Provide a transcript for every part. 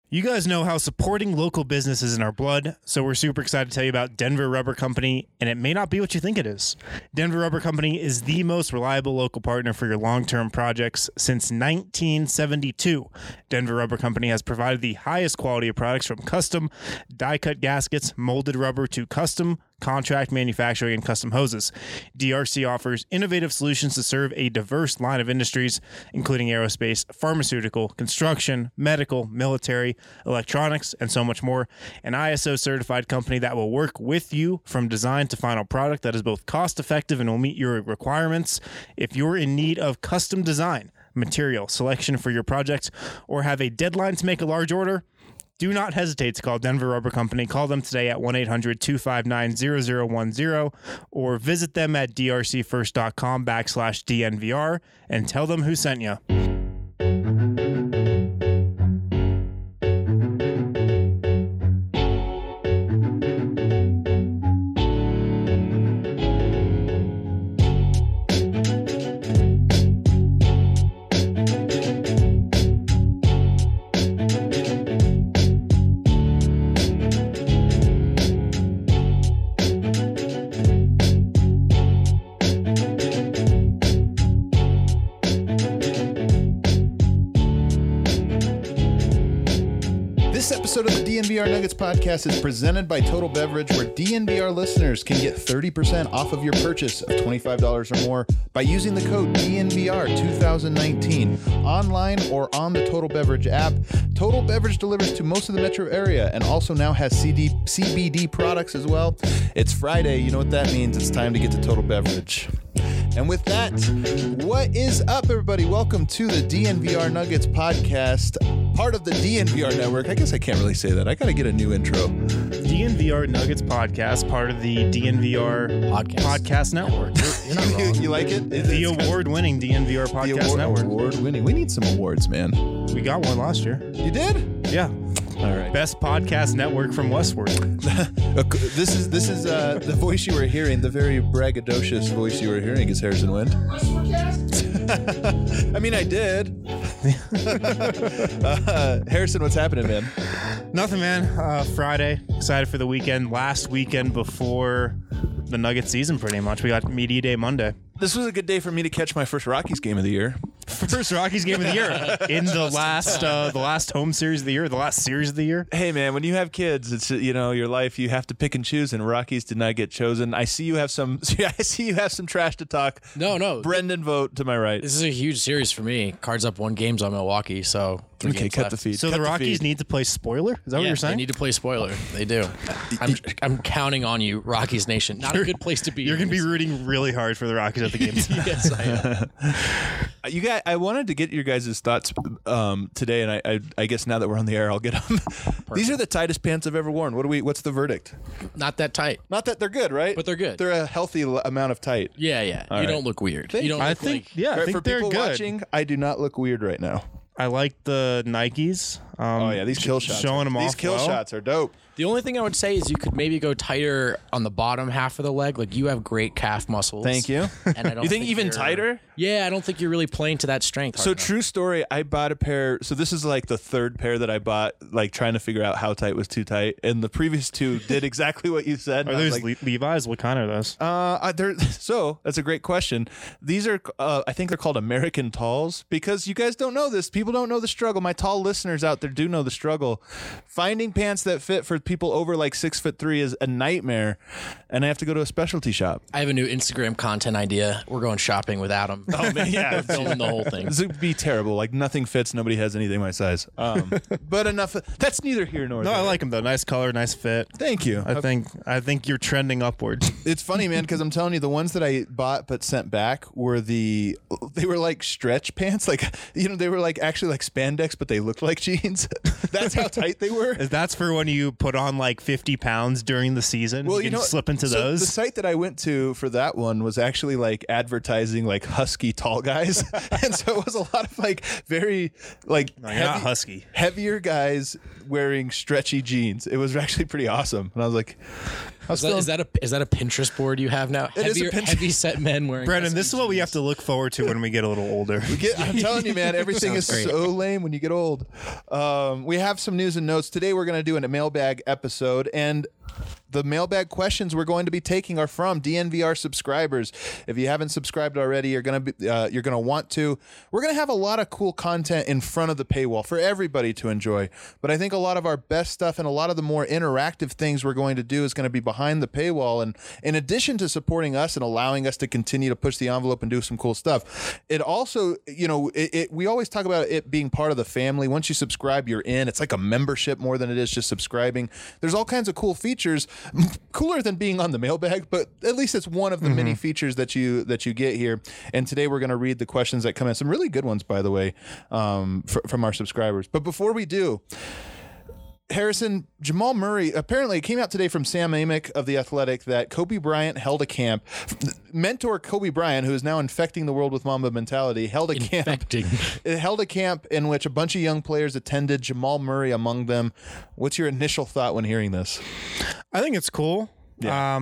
You guys know how supporting local business is in our blood, so we're super excited to tell you about Denver Rubber Company, and it may not be what you think it is. Denver Rubber Company is the most reliable local partner for your long-term projects since 1972. Denver Rubber Company has provided the highest quality of products from custom die-cut gaskets, molded rubber to custom contract manufacturing and custom hoses. DRC offers innovative solutions to serve a diverse line of industries, including aerospace, pharmaceutical, construction, medical, military, electronics, and so much more. An ISO certified company that will work with you from design to final product that is both cost effective and will meet your requirements. If you're in need of custom design, material selection for your project, or have a deadline to make a large order, do not hesitate to call Denver Rubber Company. Call them today at 1-800-259-0010 or visit them at drcfirst.com/DNVR and tell them who sent you. This episode of the DNVR Nuggets podcast is presented by Total Beverage, where DNVR listeners can get 30% off of your purchase of $25 or more by using the code DNVR2019 online or on the Total Beverage app. Total Beverage delivers to most of the metro area and also now has CBD products as well. It's Friday. You know what that means. It's time to get to Total Beverage. And with that, what is up, everybody? Welcome to the DNVR Nuggets podcast, part of the DNVR network. I guess I can't really say that. I got to get a new intro. DNVR Nuggets podcast, part of the DNVR podcast network. You're not wrong. You like it? The award-winning DNVR podcast network. Award-winning. We need some awards, man. We got one last year. You did? Yeah. All right. Best podcast network from Westward. This is the voice you were hearing. The very braggadocious voice you were hearing is Harrison Wind. I mean, I did. Harrison, what's happening, man? Nothing, man. Friday. Excited for the weekend. Last weekend before the Nuggets season, pretty much. We got Media Day Monday. This was a good day for me to catch my first Rockies game of the year. First Rockies game of the year in the last home series of the year, the last series of the year. Hey man, when you have kids, it's your life. You have to pick and choose, and Rockies did not get chosen. I see you have some. I see you have some trash to talk. No. Brendan, vote to my right. This is a huge series for me. Cards up 1 games on Milwaukee, so okay, cut left. the feed. So cut the Rockies need to play spoiler. Is that what you're saying? They need to play spoiler. They do. I'm counting on you, Rockies Nation. Not a good place to be. You're going to be rooting really hard for the Rockies at the game. Yes, I am. You guys, I wanted to get your guys' thoughts today, and I guess now that we're on the air, I'll get them. These are the tightest pants I've ever worn. What's the verdict? Not that tight. Not that they're good, right? But they're good. They're a healthy amount of tight. Yeah. You right. don't look weird. Thank You don't you. look I think, like... yeah, I think For they're people good. watching, I do not look weird right now. I like the Nikes. Oh yeah, these kill shots. Showing them off. These kill well. shots are dope. The only thing I would say is you could maybe go tighter on the bottom half of the leg. Like, you have great calf muscles. Thank you. And I don't You think even you're- tighter? Yeah, I don't think you're really playing to that strength. So true story, I bought a pair. So this is like the third pair that I bought, like trying to figure out how tight was too tight. And the previous two did exactly what you said. Are and I was those like, Levi's? What kind are those? so that's a great question. These are, I think they're called American Talls, because you guys don't know this. People don't know the struggle. My tall listeners out there do know the struggle. Finding pants that fit for people over like 6'3" is a nightmare, and I have to go to a specialty shop. I have a new Instagram content idea. We're going shopping with Adam. Oh man, yeah, Filming the whole thing. This would be terrible. Like, nothing fits. Nobody has anything my size. But enough. That's neither here nor No, there. I like them though. Nice color, nice fit. Thank you. I think you're trending upwards. It's funny, man, because I'm telling you, the ones that I bought but sent back were they were like stretch pants, like they were like actually like spandex, but they looked like jeans. That's how tight they were. That's for when you put on like 50 pounds during the season. Well, you can slip into so those. The site that I went to for that one was actually like advertising like husky tall guys, and so it was a lot of like very like No, you're not husky. heavier guys wearing stretchy jeans. It was actually pretty awesome, and I was like, Is that a Pinterest board you have now? It is a Heavy set men wearing. Brendan, this is what we have to look forward to when we get a little older. I'm telling you, man, everything is Sounds great. so lame when you get old. We have some news and notes. Today we're going to do a mailbag episode, and the mailbag questions we're going to be taking are from DNVR subscribers. If you haven't subscribed already, you're going to want to. We're going to have a lot of cool content in front of the paywall for everybody to enjoy. But I think a lot of our best stuff and a lot of the more interactive things we're going to do is going to be behind the paywall. And in addition to supporting us and allowing us to continue to push the envelope and do some cool stuff, it also, we always talk about it being part of the family. Once you subscribe, you're in. It's like a membership more than it is just subscribing. There's all kinds of cool features, cooler than being on the mailbag, but at least it's one of the many features that you get here. And today we're going to read the questions that come in. Some really good ones, by the way, from our subscribers. But before we do, Harrison, Jamal Murray, apparently it came out today from Sam Amick of The Athletic that Kobe Bryant held a camp. Mentor Kobe Bryant, who is now infecting the world with Mamba mentality, held a camp. It held a camp in which a bunch of young players attended, Jamal Murray among them. What's your initial thought when hearing this? I think it's cool. Yeah.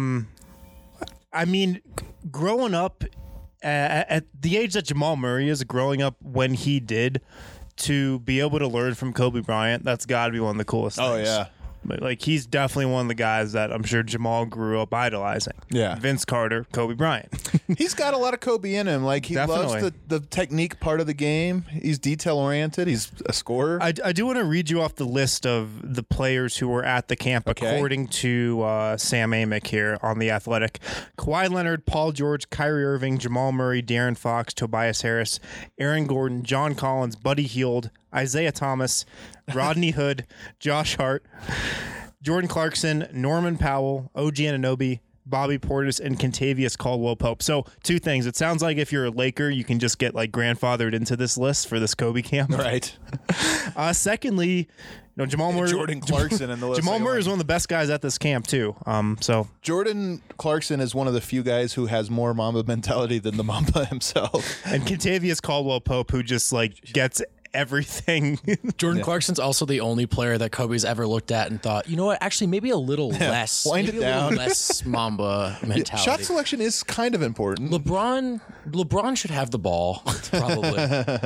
I mean, growing up at the age that Jamal Murray is, growing up when he did, to be able to learn from Kobe Bryant, that's got to be one of the coolest things. Oh, yeah. But, like, he's definitely one of the guys that I'm sure Jamal grew up idolizing. Yeah. Vince Carter, Kobe Bryant. He's got a lot of Kobe in him. Like, he Definitely. loves the technique part of the game. He's detail-oriented. He's a scorer. I do want to read you off the list of the players who were at the camp, Okay. according to Sam Amick here on The Athletic. Kawhi Leonard, Paul George, Kyrie Irving, Jamal Murray, De'Aaron Fox, Tobias Harris, Aaron Gordon, John Collins, Buddy Hield, Isaiah Thomas, Rodney Hood, Josh Hart, Jordan Clarkson, Norman Powell, OG Anunoby, Bobby Portis, and Kentavious Caldwell-Pope. So, two things. It sounds like if you're a Laker, you can just get like grandfathered into this list for this Kobe camp. Right. Secondly, Jamal Murray, Jordan Clarkson in the list. Jamal Murray is one of the best guys at this camp too. So Jordan Clarkson is one of the few guys who has more Mamba mentality than the Mamba himself. and Kentavious Caldwell-Pope, who just like gets everything. Jordan Clarkson's also the only player that Kobe's ever looked at and thought, you know what, actually maybe a little less, wind maybe it a little down. less Mamba mentality. Shot selection is kind of important. LeBron should have the ball, probably.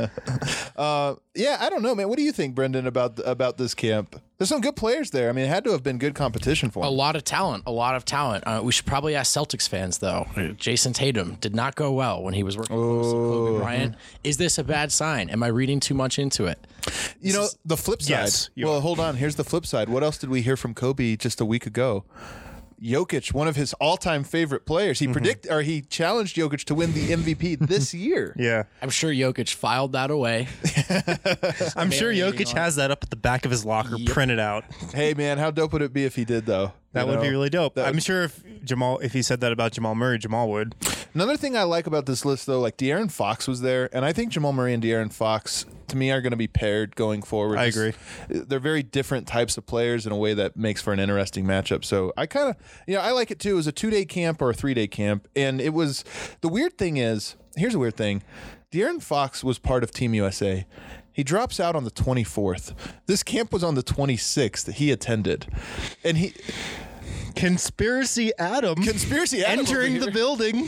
Yeah, I don't know, man. What do you think, Brendan, about this camp? There's some good players there. I mean, it had to have been good competition for A him. lot of talent. We should probably ask Celtics fans, though. Jason Tatum did not go well when he was working close to Kobe Bryant. Is this a bad sign? Am I reading too much into it? The flip side. Yes, you Well, are. hold on. Here's the flip side. What else did we hear from Kobe just a week ago? Jokic, one of his all-time favorite players. He challenged Jokic to win the MVP this year. Yeah, I'm sure Jokic filed that away. I'm sure Marinating Jokic on has that up at the back of his locker, printed out. Hey, man, how dope would it be if he did, though? That You would be know? really dope. That I'm would- sure if he said that about Jamal Murray, Jamal would. Another thing I like about this list, though, like De'Aaron Fox was there, and I think Jamal Murray and De'Aaron Fox, to me, are going to be paired going forward. I agree. They're very different types of players in a way that makes for an interesting matchup. So I kind of, I like it too. It was a 2-day camp or a 3-day camp, and it was, the weird thing is, here's a weird thing. De'Aaron Fox was part of Team USA. He drops out on the 24th. This camp was on the 26th that he attended. And Conspiracy Adam entering over the here. building.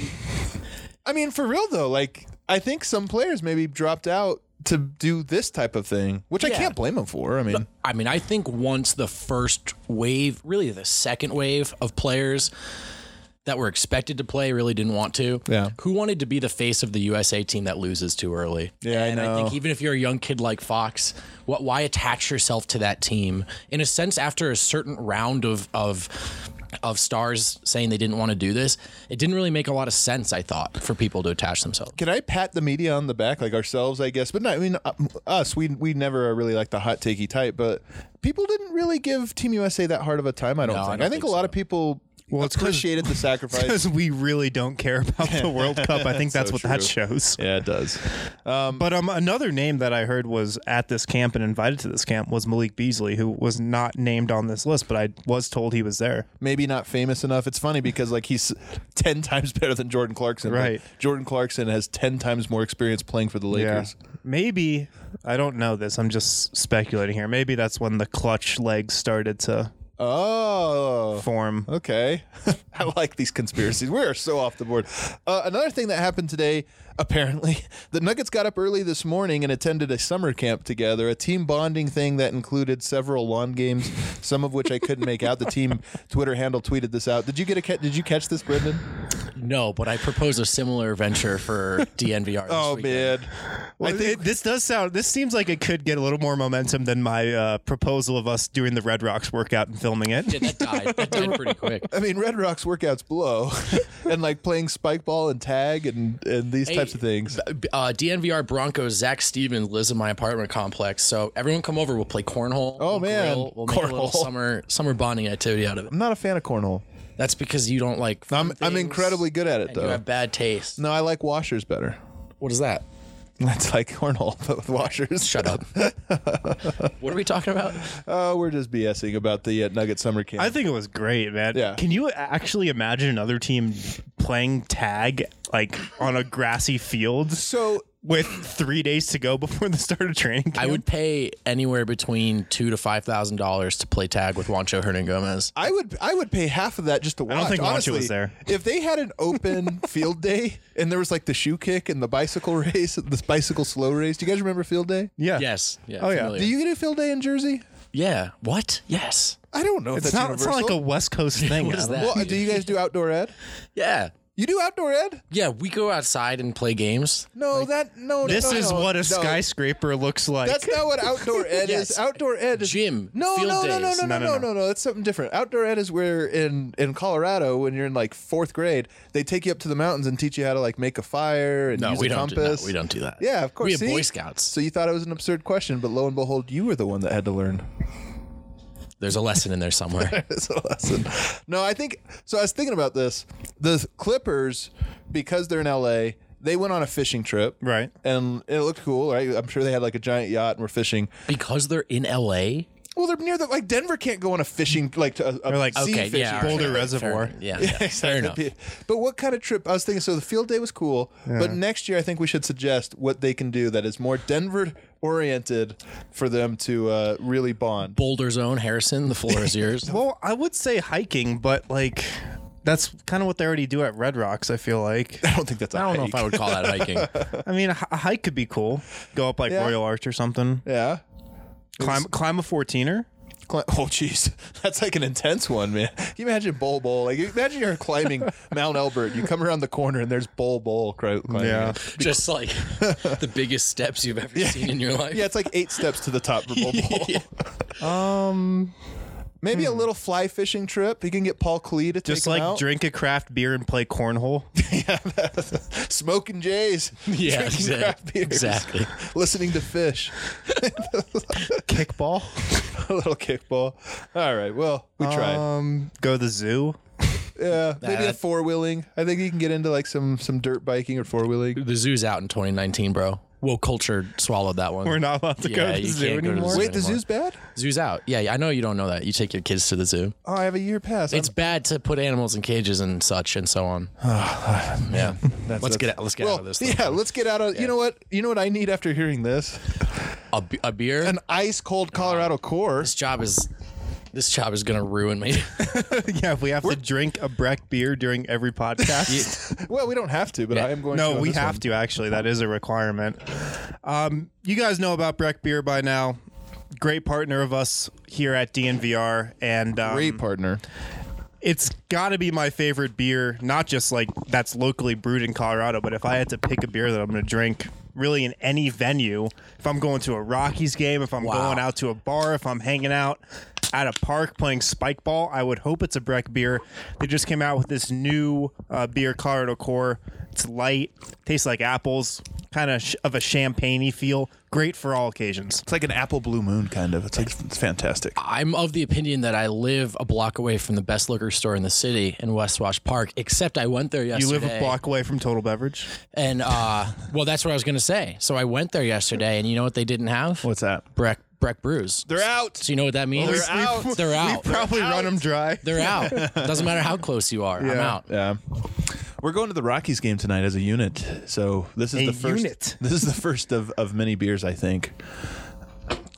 I mean, for real though, like I think some players maybe dropped out to do this type of thing, which I Yeah. can't blame them for. I mean, I think once the first wave, really the second wave of players that were expected to play really didn't want to. Yeah. Who wanted to be the face of the USA team that loses too early? Yeah, I and I know. think even if you're a young kid like Fox, why attach yourself to that team? In a sense, after a certain round of stars saying they didn't want to do this, it didn't really make a lot of sense, I thought, for people to attach themselves. can I pat the media on the back, like ourselves, I guess? But no, I mean, us, we never are really like the hot takey type, but people didn't really give Team USA that hard of a time, I don't No, I think. don't I think a think lot so. of people it's 'cause- appreciated the sacrifice. Because we really don't care about the World Cup. I think that's So what that true. shows. Yeah, it does. But another name that I heard was at this camp and invited to this camp was Malik Beasley, who was not named on this list, but I was told he was there. Maybe not famous enough. It's funny because like he's 10 times better than Jordan Clarkson. but Right. Jordan Clarkson has 10 times more experience playing for the Lakers. Maybe, I don't know this, I'm just speculating here. Maybe that's when the clutch legs started to form. Okay. I like these conspiracies. We are so off the board. Another thing that happened today, apparently, the Nuggets got up early this morning and attended a summer camp together, a team bonding thing that included several lawn games, some of which I couldn't make out. The team Twitter handle tweeted this out. Did you catch this, Brendan? No, but I propose a similar venture for DNVR. Oh, man. Well, this seems like it could get a little more momentum than my proposal of us doing the Red Rocks workout and filming it. Yeah, that died pretty quick. I mean, Red Rocks workouts blow, and like playing spike ball and tag and these types of things. DNVR Broncos, Zach Stevens lives in my apartment complex, so everyone come over. We'll play cornhole. Oh, we'll man. grill, we'll make a little summer bonding activity out of it. I'm not a fan of cornhole. That's because you don't like. I'm incredibly good at it, and though. You have bad taste. No, I like washers better. What is that? That's like cornhole, but with washers. Shut up. What are we talking about? Oh, we're just BSing about the Nugget summer camp. I think it was great, man. Yeah. Can you actually imagine another team playing tag like on a grassy field so. with 3 days to go before the start of training camp? I would pay anywhere between $2,000 to $5,000 to play tag with Juancho Hernangomez. I would pay half of that just to watch. I don't think Juancho Honestly, was there. If they had an open field day and there was like the shoe kick and the bicycle race, the bicycle slow race. Do you guys remember field day? Yeah. Yes. Yeah. Oh, yeah. familiar. Do you get a field day in Jersey? Yeah. What? Yes. I don't know if It's that's not universal. like a West Coast thing. What is Adam. that? Well, do you guys do outdoor ed? Yeah. You do outdoor ed? Yeah. We go outside and play games. No, This is no, what a no. skyscraper looks like. That's not what outdoor ed Yes. is. Outdoor ed is Gym, No, field no, no, no, days. no, no, No. no, no. That's something different. Outdoor ed is where in Colorado, when you're in like 4th grade, they take you up to the mountains and teach you how to like make a fire and No, use we a don't. compass. We don't do that. Yeah, of course. We have See? Boy Scouts. So you thought it was an absurd question, but lo and behold, you were the one that had to learn. There's a lesson in there somewhere. It's a lesson. No, I think so. I was thinking about this. The Clippers, because they're in LA, they went on a fishing trip, Right. And it looked cool, right? I'm sure they had like a giant yacht and were fishing. Because they're in LA. Well, they're near the like Denver can't go on a fishing like a like, sea Okay. fishing Yeah. trip. Boulder fair- Reservoir. fair- Yeah. Fair enough. But what kind of trip? I was thinking. So the field day was cool, but next year I think we should suggest what they can do that is more Denver oriented for them to really bond. Boulder Zone, Harrison. The floor is yours. Well, I would say hiking, but like that's kind of what they already do at Red Rocks, I feel like. I don't think that's. I don't know if I would call that hiking. I mean, a hike could be cool. Go up like Yeah. Royal Arch or something. Yeah. Climb a 14er. Oh, jeez. That's like an intense one, man. Can you imagine Bol Bol? Like, imagine you're climbing Mount Elbert. You come around the corner and there's Bol Bol climbing. Yeah. it. Just like the biggest steps you've ever seen in your life. Yeah, it's like 8 steps to the top for Bol Bol. Maybe a little fly fishing trip. You can get Paul Klee to take Just him like out. drink a craft beer and play cornhole. Smoking Jays. Yeah, Drinking craft beers. exactly. Listening to Fish. Kickball. A little kickball. All right. Well, we tried. Go to the zoo. Yeah. Maybe a That- 4-wheeling. I think you can get into like some dirt biking or 4-wheeling. The zoo's out in 2019, bro. Woke culture swallowed that one. We're not allowed to go Yeah, to the you zoo can't go to the anymore. zoo. Wait, the anymore. zoo's bad? Zoo's out. Yeah, I know you don't know that. You take your kids to the zoo. Oh, I have a year pass. It's bad to put animals in cages and such and so on. Yeah. Let's get out of this. Yeah, let's get out of. You know what? You know what I need after hearing this? A beer. An ice cold Colorado core. This job is gonna ruin me. Yeah, if we have to drink a Breck beer during every podcast. Well, we don't have to, but Yeah. I am going. No, to on we this have one. to actually. That is a requirement. You guys know about Breck Beer by now. Great partner of us here at DNVR, and Great partner. it's got to be my favorite beer. Not just like that's locally brewed in Colorado, but if I had to pick a beer that I'm going to drink, really in any venue, if I'm going to a Rockies game, if I'm going out to a bar, if I'm hanging out at a park playing spike ball, I would hope it's a Breck beer. They just came out with this new beer, Colorado Core. It's light, tastes like apples, kind of a champagne-y feel. Great for all occasions. It's like an apple blue moon, kind of. It's fantastic. I'm of the opinion that I live a block away from the best liquor store in the city in West Wash Park, except I went there You yesterday. live a block away from Total Beverage? And, well, that's what I was going to say. So I went there yesterday, and you know what they didn't have? What's that? Breck Brews. They're out. So you know what that means? They're out. They're out. Probably run them dry. They're out. Doesn't matter how close you are. I'm out. Yeah. We're going to the Rockies game tonight as a unit. So this is A the first unit. This is the first of many beers, I think.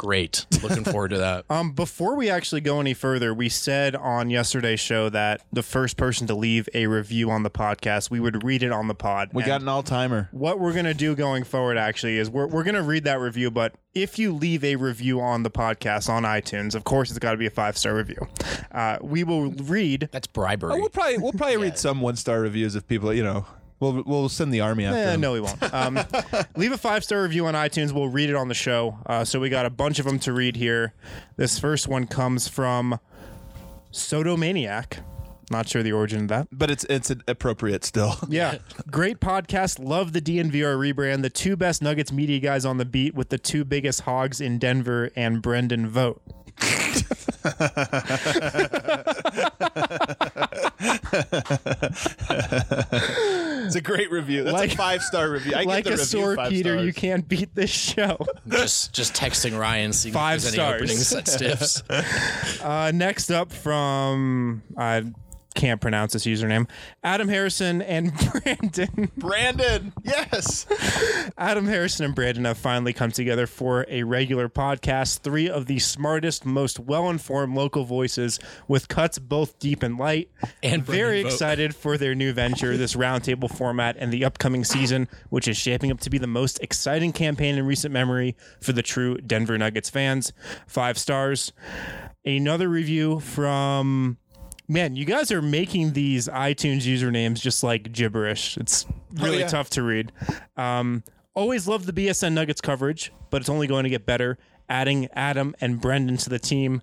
Great. Looking forward to that. Before we actually go any further, we said on yesterday's show that the first person to leave a review on the podcast, we would read it on the pod. We got an all-timer. What we're going to do going forward actually is we're going to read that review, but if you leave a review on the podcast on iTunes, of course it's got to be a 5-star review. We will read. That's bribery. Oh, we'll probably read some 1-star reviews if people, we'll send the army after them. No, we won't. Leave a 5-star review on iTunes. We'll read it on the show. So we got a bunch of them to read here. This first one comes from Sodomaniac. Not sure the origin of that. But it's appropriate still. Yeah. Great podcast. Love the DNVR rebrand. The 2 best Nuggets media guys on the beat with the 2 biggest hogs in Denver and Brendan vote. It's a great review. That's a 5-star review. I like give the a sore Peter, stars. you can't beat this show. Just texting Ryan, seeing 5 if there's stars. any opening set stiffs. Next up from can't pronounce this username. Adam Harrison and Brandon. Brandon, yes. Adam Harrison and Brandon have finally come together for a regular podcast. 3 of the smartest, most well-informed local voices with cuts both deep and light. And very Brendan Vogt. excited for their new venture, this roundtable format, and the upcoming season, which is shaping up to be the most exciting campaign in recent memory for the true Denver Nuggets fans. 5 stars. Another review from... Man, you guys are making these iTunes usernames just like gibberish. It's really tough to read. Always love the BSN Nuggets coverage, but it's only going to get better. Adding Adam and Brendan to the team.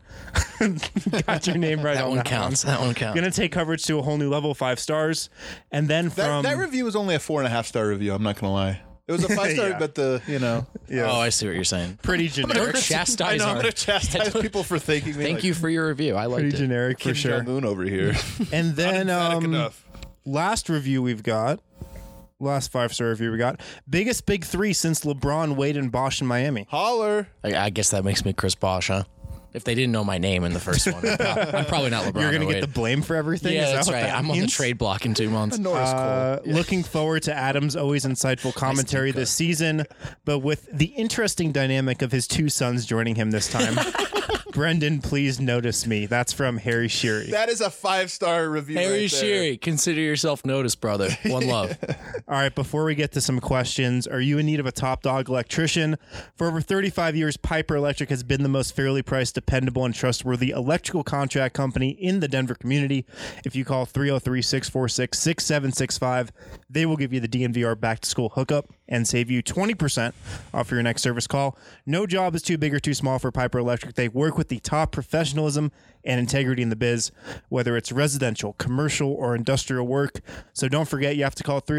Got your name right That on one that counts. one. That one counts. Going to take coverage to a whole new level, 5 stars. And then from... That review was only a 4.5-star review. I'm not going to lie. It was a 5-star, Yeah. but Oh, I see what you're saying. pretty Don't generic. chastise I'm our... going to chastise people for thanking me. Thank you for your review. I liked Pretty it. generic for Kim sure. Jong-un over here. And then Emphatic enough. last review we've got, last 5-star review we got, biggest big 3 since LeBron, Wade, and Bosch in Miami. Holler. I guess that makes me Chris Bosh, huh? If they didn't know my name in the first one, I'm probably not LeBron. You're going to Wade. get the blame for everything? Yeah, Is that that's what right. that I'm on the means? trade block in 2 months. Norris Cole. Looking forward to Adam's always insightful commentary this season, but with the interesting dynamic of his 2 sons joining him this time. Brendan, please notice me. That's from Harry Sheary. That is a 5-star review. Harry right there. Sheary, consider yourself noticed, brother. One love. All right, before we get to some questions, are you in need of a top dog electrician? For over 35 years, Piper Electric has been the most fairly priced, dependable, and trustworthy electrical contract company in the Denver community. If you call 303-646-6765, they will give you the DNVR back-to-school hookup and save you 20% off your next service call. No job is too big or too small for Piper Electric. They work with the top professionalism and integrity in the biz, whether it's residential, commercial, or industrial work. So don't forget, you have to call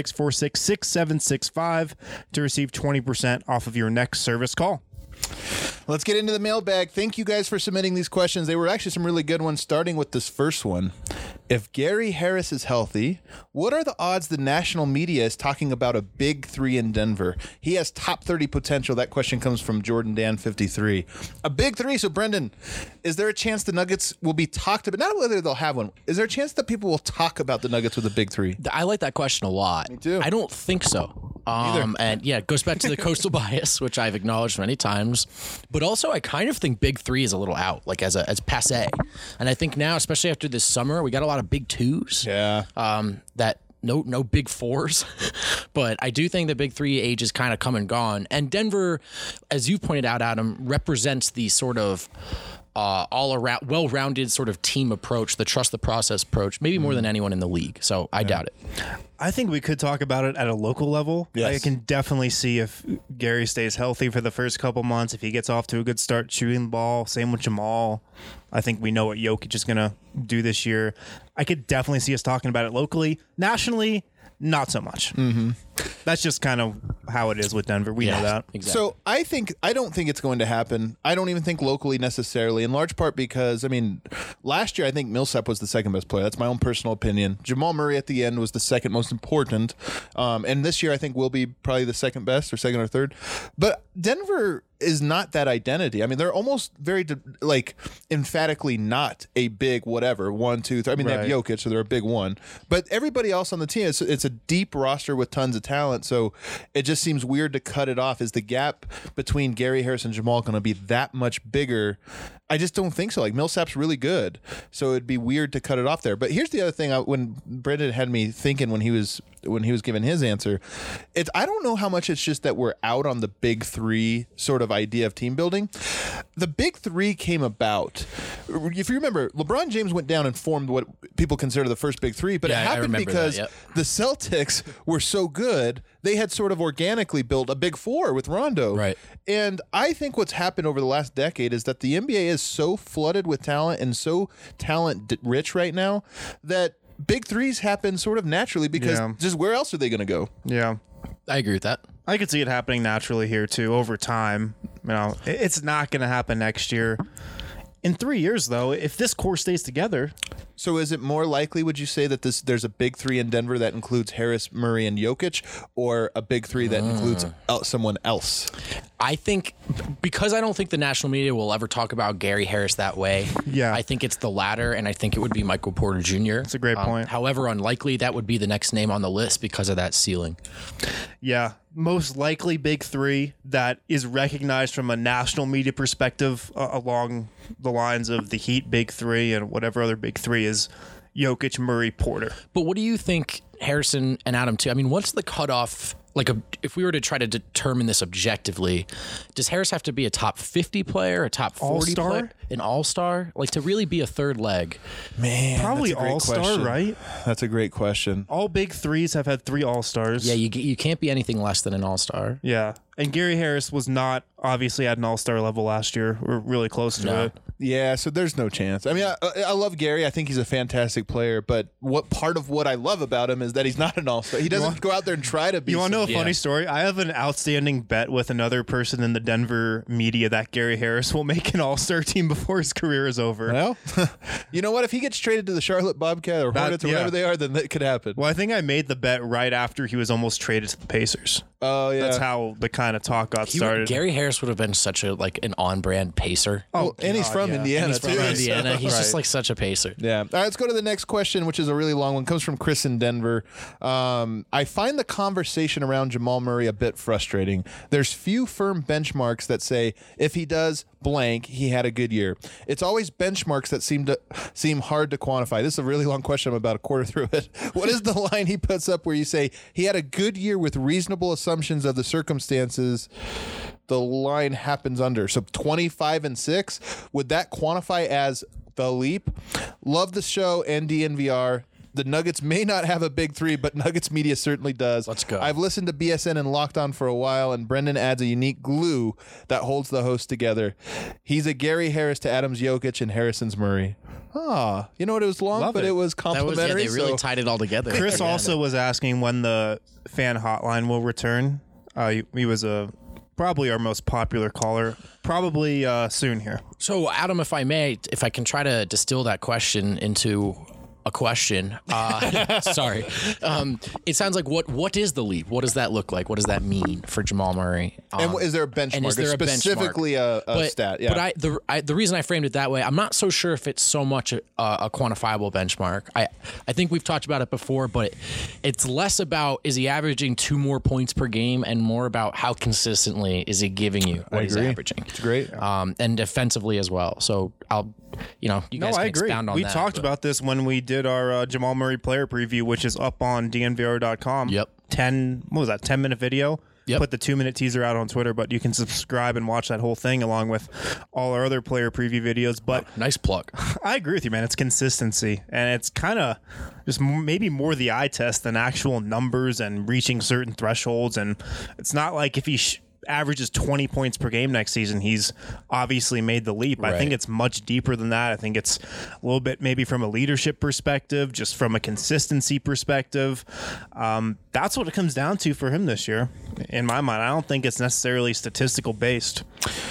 303-646-6765 to receive 20% off of your next service call. Let's get into the mailbag. Thank you guys for submitting these questions. They were actually some really good ones, starting with this first one. If Gary Harris is healthy, what are the odds the national media is talking about a big 3 in Denver? He has top 30 potential. That question comes from Jordan Dan 53. A big 3. So, Brendan, is there a chance the Nuggets will be talked about? Not whether they'll have one. Is there a chance that people will talk about the Nuggets with a big 3? I like that question a lot. Me too. I don't think so. And yeah, it goes back to the coastal bias, which I've acknowledged many times. But also, I kind of think big 3 is a little out, like as passe. And I think now, especially after this summer, we got a lot of big 2s. Yeah. That no big 4s. But I do think the big 3 age is kind of come and gone. And Denver, as you pointed out, Adam, represents the sort of all around well-rounded sort of team approach, the trust the process approach, maybe more than anyone in the league. So I doubt it. I think we could talk about it at a local level. Yes. I can definitely see if Gary stays healthy for the first couple months, if he gets off to a good start shooting the ball, same with Jamal. I think we know what Jokic is going to do this year. I could definitely see us talking about it locally. Nationally, not so much. Mm-hmm. That's just kind of how it is with Denver. We know that. Exactly. So I don't think it's going to happen. I don't even think locally necessarily, in large part because, last year I think Millsap was the second best player. That's my own personal opinion. Jamal Murray at the end was the second most important. And this year I think will be probably the second best or second or third. But Denver is not that identity. I mean, they're almost very like emphatically not a big whatever 1, 2, 3. I mean, they have Right. Jokic, so they're a big one. But everybody else on the team, it's a deep roster with tons of talent. So it just seems weird to cut it off. Is the gap between Gary Harris and Jamal going to be that much bigger? I just don't think so. Like Millsap's really good, so it'd be weird to cut it off there. But here's the other thing: when Brendan had me thinking when he was giving his answer, I don't know how much it's just that we're out on the big three sort of idea of team building. The big three came about. If you remember, LeBron James went down and formed what people consider the first big three, but Yeah, it I happened remember because that, yep. the Celtics were so good, they had sort of organically built a big four with Rondo. Right. And I think what's happened over the last decade is that the NBA is so flooded with talent and so talent rich right now that big threes happen sort of naturally because Yeah. just where else are they going to go? Yeah. I agree with that. I could see it happening naturally here too over time. You know, it's not going to happen next year. In 3 years, though, if this core stays together, So is it more likely, would you say, that there's a big three in Denver that includes Harris, Murray, and Jokic, or a big three that includes someone else? I think because I don't think the national media will ever talk about Gary Harris that way. Yeah. I think it's the latter, and I think it would be Michael Porter Jr. That's a great point. However, unlikely that would be the next name on the list because of that ceiling. yeah, most likely big three that is recognized from a national media perspective along the lines of the Heat big three and whatever other big three is Jokic, Murray, Porter. But what do you think, Harrison and Adam, too? I mean, what's the cutoff? Like, if we were to try to determine this objectively, does Harris have to be a top 50 player, a top 40 All-star? player, an all-star? Like, to really be a third leg? Man, Probably that's a great all-star, question. right? That's a great question. All big threes have had 3 all-stars. Yeah, you can't be anything less than an all-star. Yeah. And Gary Harris was not obviously at an all-star level last year. We're really close to No. it. Yeah, so there's no chance. I mean, I love Gary. I think he's a fantastic player, but what part of what I love about him is that he's not an all-star. He doesn't go out there and try to be. You want to know a Yeah. funny story? I have an outstanding bet with another person in the Denver media that Gary Harris will make an all-star team before his career is over. Well, you know what? If he gets traded to the Charlotte Bobcat or Hornets or yeah. whatever they are, then that could happen. Well, I think I made the bet right after he was almost traded to the Pacers. Oh, yeah. That's how the kind of talk got started. Gary Harris would have been such an on-brand pacer. Well, and he's God, from yeah. Indiana, He's from too. Indiana. He's just Right. like such a pacer. Yeah. All right, let's go to the next question, which is a really long one. It comes from Chris in Denver. I find the conversation around Jamal Murray a bit frustrating. There's few firm benchmarks that say if he does blank, he had a good year. It's always benchmarks that seem hard to quantify. This is a really long question. I'm about a quarter through it. What is the line he puts up where you say he had a good year with reasonable assumptions of the circumstances the line happens under? So 25-6, would that quantify as the leap? Love the show and DNVR. The Nuggets may not have a big three, but Nuggets media certainly does. Let's go. I've listened to BSN and Locked On for a while, and Brendan adds a unique glue that holds the host together. He's a Gary Harris to Adams Jokic and Harrison's Murray. Ah, you know what? It was long, Love but it. it was That was complimentary. they really so tied it all together. Chris Yeah. also was asking when the fan hotline will return. He was probably our most popular caller. Probably soon here. So, Adam, if I can try to distill that question into a question. Sorry. It sounds like what is the leap? What does that look like? What does that mean for Jamal Murray? and is there a benchmark? and is there a specifically a stat? Yeah. But the reason I framed it that way, I'm not so sure if it's so much a quantifiable benchmark. I think we've talked about it before, but it's less about is he averaging 2 more points per game and more about how consistently is he giving you what he's agree. averaging. It's great. And defensively as well. So you guys No, can I agree. expound on We that. talked but- about this when we did our Jamal Murray player preview, which is up on DNVR.com. Yep. 10-minute video. Yep. Put the 2-minute teaser out on Twitter, but you can subscribe and watch that whole thing along with all our other player preview videos. But Nice plug. I agree with you, man. It's consistency, and it's kind of just maybe more the eye test than actual numbers and reaching certain thresholds. And it's not like if he averages 20 points per game next season, he's obviously made the leap. I think Right. it's much deeper than that. I think it's a little bit maybe from a leadership perspective, just from a consistency perspective. That's what it comes down to for him this year, in my mind. I don't think it's necessarily statistical based.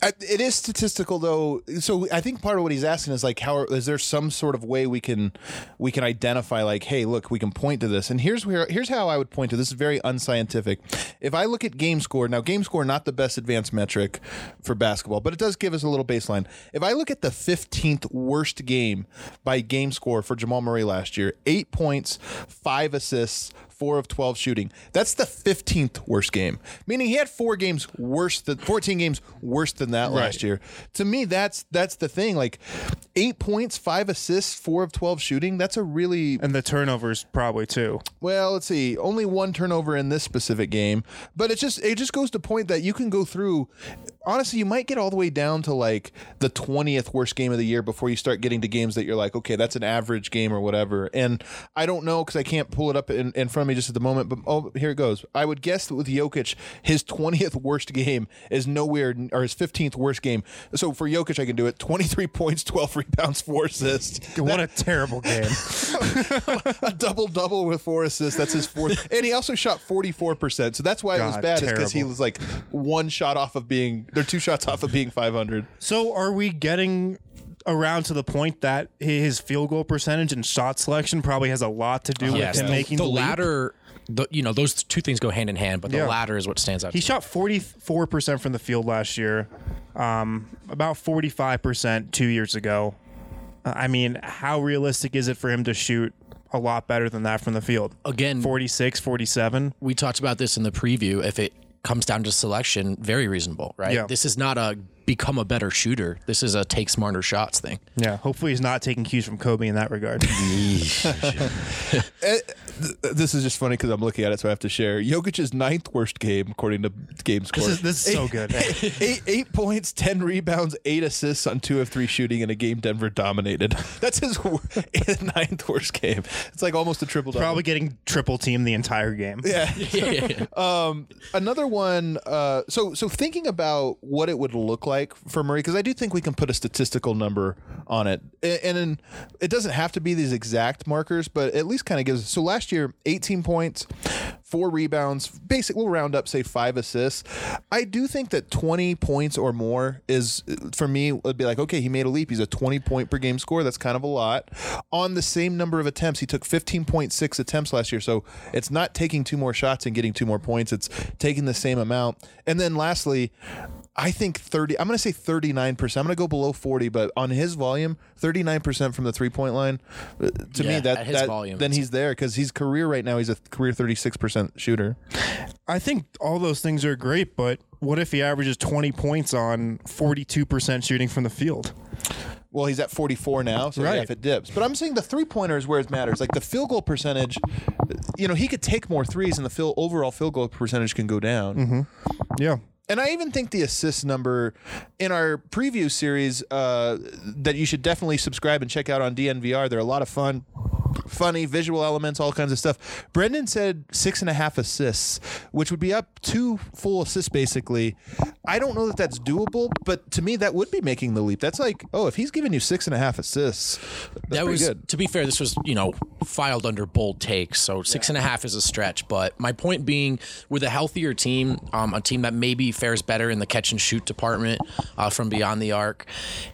It is statistical though, so I think part of what he's asking is like, how is there some sort of way we can identify like, hey, look, we can point to this, and here's how I would point to this. Is very unscientific. If I look at game score, now game score not the best advanced metric for basketball, but it does give us a little baseline. If I look at the 15th worst game by game score for Jamal Murray last year, 8 points, 5 assists, 4 of 12 shooting. That's the 15th worst game, meaning he had 14 games worse than that last year. To me, that's the thing. Like 8 points, 5 assists, 4 of 12 shooting. That's a really And the turnovers probably too. well. Let's see, only 1 turnover in this specific game, but it just goes to point that you can go through. Honestly, you might get all the way down to like the 20th worst game of the year before you start getting to games that you're like, okay, that's an average game or whatever. And I don't know because I can't pull it up in front of me just at the moment, but here it goes. I would guess that with Jokic, his 20th worst game is nowhere, or his 15th worst game. So for Jokic, I can do it. 23 points, 12 rebounds, 4 assists. What a terrible game. A double-double with 4 assists. That's his 4th. And he also shot 44%. So that's why it was bad, is because he terrible. was like 2 shots off of being 500. So are we getting around to the point that his field goal percentage and shot selection probably has a lot to do with him making the leap? latter. Those two things go hand in hand, but the latter is what stands out. He to me. shot 44% from the field last year, about 45% 2 years ago. I mean, how realistic is it for him to shoot a lot better than that from the field? Again, 46, 47. we talked about this in the preview. If it comes down to selection, very reasonable, right? Yeah. This is not a become a better shooter. This is a take smarter shots thing. Yeah, hopefully he's not taking cues from Kobe in that regard. This is just funny because I'm looking at it, so I have to share. Jokic's 9th worst game, according to game score. This is so good. 8 points, 10 rebounds, 8 assists on 2 of 3 shooting in a game Denver dominated. That's his 9th worst game. It's like almost a triple-double. Probably getting triple teamed the entire game. Yeah. Yeah. Another one. So thinking about what it would look like for Murray, because I do think we can put a statistical number on it, and it doesn't have to be these exact markers, but at least kind of gives. So last year, 18 points, 4 rebounds, we'll round up, say 5 assists. I do think that 20 points or more is, for me, would be like, okay, he made a leap. He's a 20 point per game score. That's kind of a lot. On the same number of attempts, he took 15.6 attempts last year. So it's not taking 2 more shots and getting 2 more points. It's taking the same amount. And then lastly, I think I'm going to say 39%. I'm going to go below 40, but on his volume, 39% from the 3-point line. To me, at his volume, then he's there, because his career right now, he's a career 36% shooter. I think all those things are great, but what if he averages 20 points on 42% shooting from the field? Well, he's at 44 now, so yeah, if it dips. But I'm saying the 3-pointer is where it matters. Like the field goal percentage, he could take more threes, and the overall field goal percentage can go down. Mm-hmm. Yeah. And I even think the assist number in our preview series that you should definitely subscribe and check out on DNVR. They're a lot of fun. Funny visual elements, all kinds of stuff. Brendan said 6.5 assists, which would be up 2 full assists basically. I don't know that that's doable, but to me that would be making the leap. That's like, if he's giving you 6.5 assists, that's pretty good. To be fair, this was filed under bold takes, so 6.5 is a stretch. But my point being, with a healthier team, a team that maybe fares better in the catch and shoot department from beyond the arc,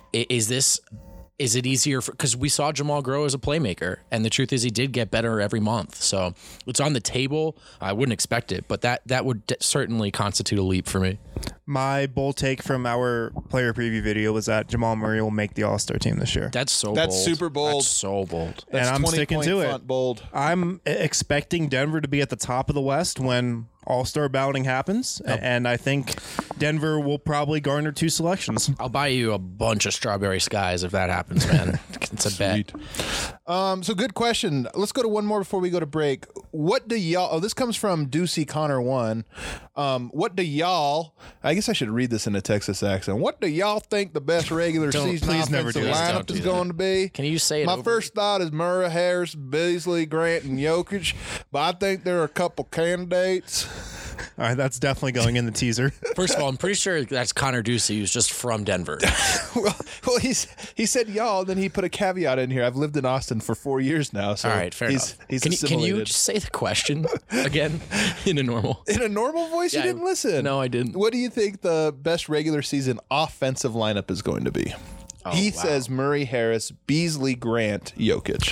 is it easier because we saw Jamal grow as a playmaker, and the truth is he did get better every month. So it's on the table. I wouldn't expect it, but that would certainly constitute a leap for me. My bold take from our player preview video was that Jamal Murray will make the All-Star team this year. That's bold. Super bold. That's so bold. That's and I'm sticking to it. Bold. I'm expecting Denver to be at the top of the West when All-Star balloting happens, and I think Denver will probably garner 2 selections. I'll buy you a bunch of strawberry skies if that happens, man. It's a bet. So good question. Let's go to one more before we go to break. What do y'all? This comes from Deucey Connor 1. What do y'all? I guess I should read this in a Texas accent. What do y'all think the best regular season please never offensive do that. lineup is going to be? Can you say it? My first thought is Murray, Harris, Beasley, Grant, and Jokic, but I think there are a couple candidates All right, that's definitely going in the teaser. First of all, I'm pretty sure that's Connor Ducey, who's just from Denver. well, he said y'all, then he put a caveat in here. I've lived in Austin for 4 years now. So All right, fair enough. He's Can assimilated. you just say the question again in a normal? In a normal voice, Yeah, you didn't listen. No, I didn't. What do you think the best regular season offensive lineup is going to be? He wow. says Murray, Harris, Beasley, Grant, Jokic.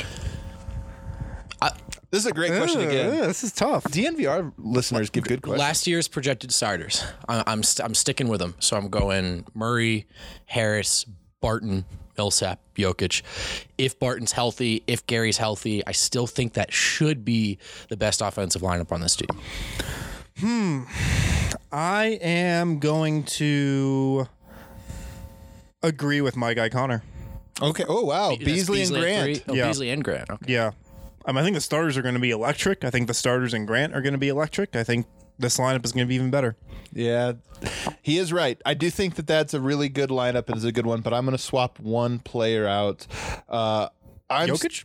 This is a great question again. Yeah, this is tough. DNVR listeners give good questions. Last year's projected starters. I'm sticking with them. So I'm going Murray, Harris, Barton, Millsap, Jokic. If Barton's healthy, if Gary's healthy, I still think that should be the best offensive lineup on this team. I am going to agree with my guy Connor. Okay. Oh, wow. That's Beasley and at Grant. 3? Oh, Yeah. Beasley and Grant. Okay. Yeah. I think the starters are going to be electric. I think the starters and Grant are going to be electric. I think this lineup is going to be even better. Yeah, he is right. I do think that that's a really good lineup and is a good one, but I'm going to swap one player out. Jokic?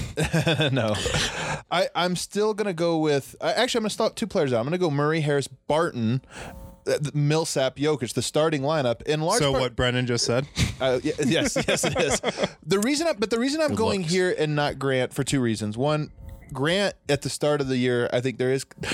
No. I'm still going to go with... Actually, I'm going to stop 2 players out. I'm going to go Murray, Harris, Barton, Millsap, Jokic, the starting lineup. In large So part, what Brennan just said. yes, it is. The reason I'm going looks. here and not Grant for 2 reasons. One, Grant at the start of the year, I think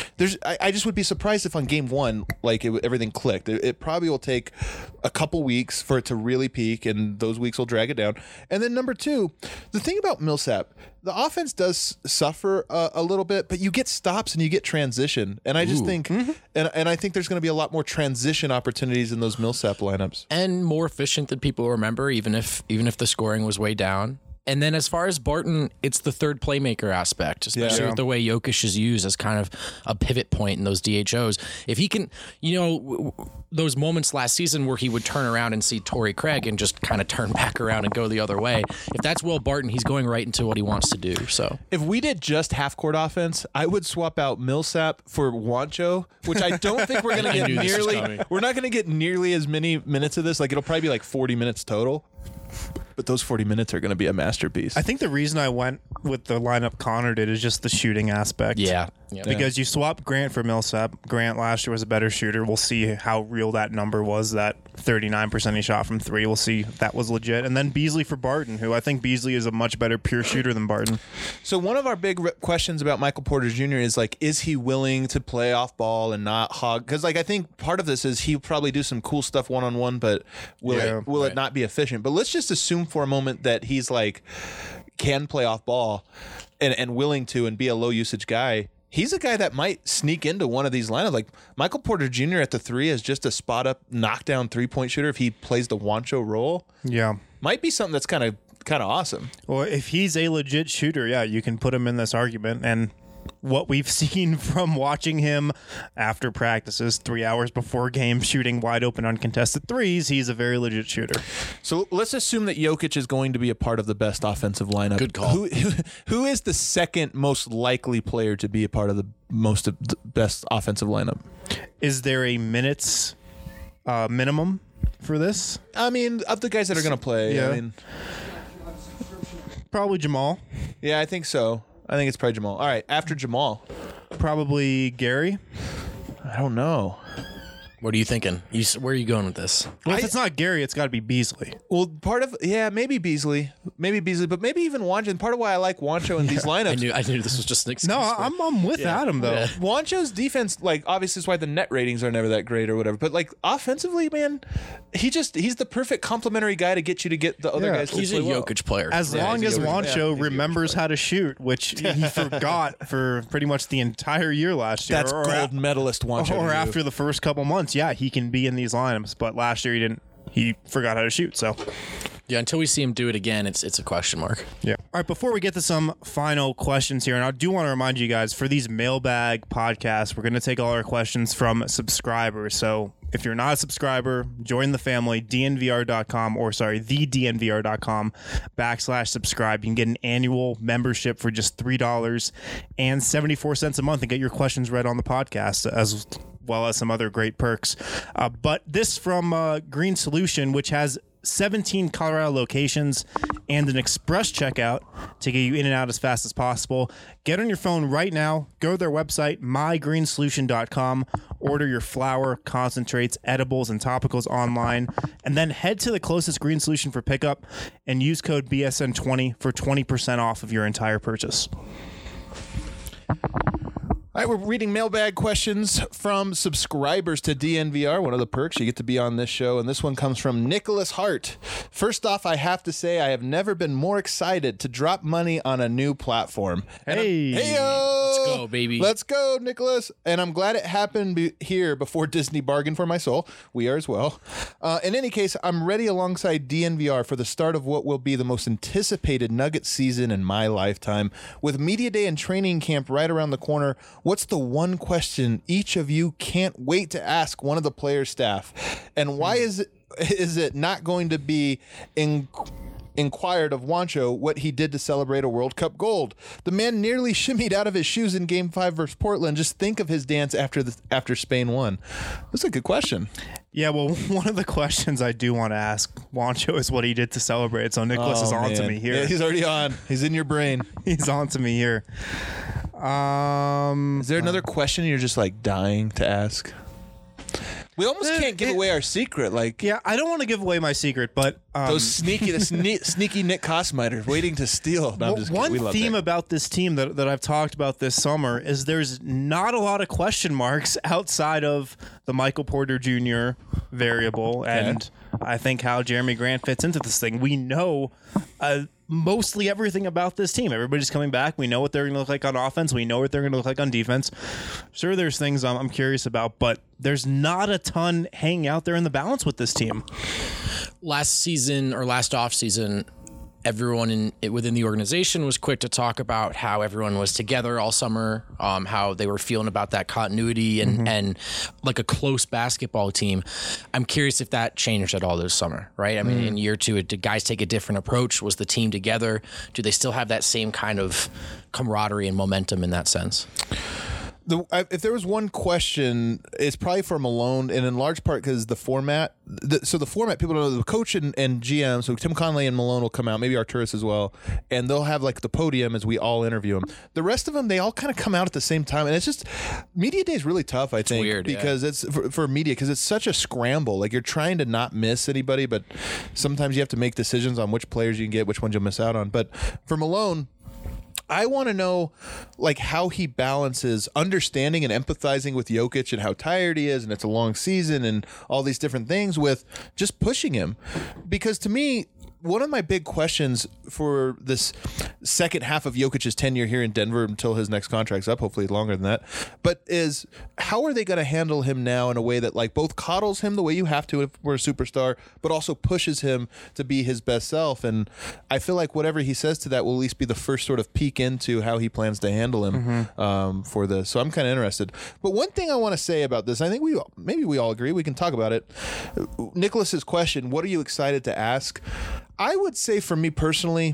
I just would be surprised if on game 1, like everything clicked. It probably will take a couple weeks for it to really peak, and those weeks will drag it down. And then number 2, the thing about Millsap, the offense does suffer a little bit, but you get stops and you get transition. And I just think, and I think there's going to be a lot more transition opportunities in those Millsap lineups. And more efficient than people remember, even if the scoring was way down. And then as far as Barton, it's the third playmaker aspect, especially with the way Jokic is used as kind of a pivot point in those DHOs. If he can, those moments last season where he would turn around and see Torrey Craig and just kind of turn back around and go the other way. If that's Will Barton, he's going right into what he wants to do. So if we did just half court offense, I would swap out Millsap for Juancho, which I don't think we're going to get nearly. We're not going to get nearly as many minutes of this. Like it'll probably be like 40 minutes total. But those 40 minutes are going to be a masterpiece. I think the reason I went with the lineup Connor did is just the shooting aspect. yeah. Because you swap Grant for Millsap. Grant last year was a better shooter. We'll see how real that number was, that 39% he shot from 3. We'll see if that was legit. And then Beasley for Barton, who I think Beasley is a much better pure shooter than Barton. So one of our big questions about Michael Porter Jr. is like, is he willing to play off ball and not hog? Because like I think part of this is he'll probably do some cool stuff one-on-one, but will it not be efficient? But let's just assume for a moment that he's like can play off ball and willing to and be a low usage guy. He's a guy that might sneak into one of these lineups. Like Michael Porter Jr. at the 3 is just a spot up knockdown 3-point shooter. If he plays the Juancho role, Yeah. might be something that's kind of awesome. Well, if he's a legit shooter, yeah, you can put him in this argument. And what we've seen from watching him after practices 3 hours before game shooting wide open uncontested threes, he's a very legit shooter. So let's assume that Jokic is going to be a part of the best offensive lineup. Good call. Who is the second most likely player to be a part of the best offensive lineup? Is there a minutes minimum for this? I mean, of the guys that are going to play, Yeah. I mean, Probably Jamal. yeah, I think so. I think it's probably Jamal. All right, after Jamal, Probably Gary. I don't know. What are you thinking? Where are you going with this? Well, if it's not Gary, it's got to be Beasley. Well, maybe Beasley, but maybe even Juancho. And part of why I like Juancho in these lineups. I knew this was just an excuse. No, for- I'm with Adam, though. Yeah. Juancho's defense, like, obviously is why the net ratings are never that great or whatever. But like offensively, man, he's the perfect complementary guy to get you to get the other Yeah. guys. To He's a play well. Jokic player. As Yeah, long he's as a Jokic- Juancho remembers how to shoot, which he forgot for pretty much the entire year last year. That's gold medalist Juancho. Or to you. after the first couple months, yeah, he can be in these lineups. But last year he didn't. He forgot how to shoot. So Yeah, until we see him do it again, it's a question mark. yeah. All right. Before we get to some final questions here, and I do want to remind you guys for these mailbag podcasts, we're going to take all our questions from subscribers. So if you're not a subscriber, join the family. DNVR.com TheDNVR.com/subscribe. You can get an annual membership for just $3.74 a month and get your questions read on the podcast as well as some other great perks. But this from Green Solution, which has 17 Colorado locations and an express checkout to get you in and out as fast as possible. Get on your phone right now, go to their website, mygreensolution.com, Order your flour, concentrates, edibles, and topicals online, and then head to the closest green solution for pickup and use code BSN20 for 20% off of your entire purchase. All right, we're reading mailbag questions from subscribers to DNVR. One of the perks, you get to be on this show, and this one comes from Nicholas Hart. First off, I have to say I have never been more excited to drop money on a new platform. Hey. Hey-o! Let's go, baby. Let's go, Nicholas. And I'm glad it happened here before Disney bargained for my soul. We are as well. In any case, I'm ready alongside DNVR for the start of what will be the most anticipated Nugget season in my lifetime. With Media Day and training camp right around the corner, what's the one question each of you can't wait to ask one of the player staff? And why is it not going to be inquired of Juancho what he did to celebrate a World Cup gold? The man nearly shimmied out of his shoes in Game 5 versus Portland. Just think of his dance after Spain won. That's a good question. Yeah, well, one of the questions I do want to ask Juancho is what he did to celebrate. So Nicholas is on to me here. Yeah, he's already on. He's in your brain. He's on to me here. Is there another question you're just like dying to ask? We almost can't give away our secret. Like, Yeah, I don't want to give away my secret, but those sneaky Nick Kosmiter waiting to steal. No, I'm just kidding. one We love theme Nick. about this team that I've talked about this summer is there's not a lot of question marks outside of the Michael Porter Jr. variable, and I think how Jeremy Grant fits into this thing. We know mostly everything about this team. Everybody's coming back. We know what they're going to look like on offense. We know what they're going to look like on defense. Sure, there's things I'm curious about, but there's not a ton hanging out there in the balance with this team. Last season or last off season, everyone within the organization was quick to talk about how everyone was together all summer, how they were feeling about that continuity and like a close basketball team. I'm curious if that changed at all this summer, right? I mean, in year two, did guys take a different approach? Was the team together? Do they still have that same kind of camaraderie and momentum in that sense? If there was one question, it's probably for Malone, and in large part because the format. So the format, people don't know, the coach and GM, so Tim Conley and Malone will come out, maybe Arturis as well, and they'll have like the podium as we all interview them. The rest of them, they all kind of come out at the same time, and it's just, Media Day is really tough, I think, weird, because it's for media, because it's such a scramble. Like, you're trying to not miss anybody, but sometimes you have to make decisions on which players you can get, which ones you'll miss out on. But for Malone, I want to know, like, how he balances understanding and empathizing with Jokic and how tired he is and it's a long season and all these different things with just pushing him. Because to me, one of my big questions for this second half of Jokic's tenure here in Denver until his next contract's up, hopefully longer than that, but is how are they going to handle him now in a way that like both coddles him the way you have to if we're a superstar, but also pushes him to be his best self? And I feel like whatever he says to that will at least be the first sort of peek into how he plans to handle him for this. So I'm kind of interested. But one thing I want to say about this, I think maybe we all agree, we can talk about it. Nicholas's question, what are you excited to ask? I would say for me personally,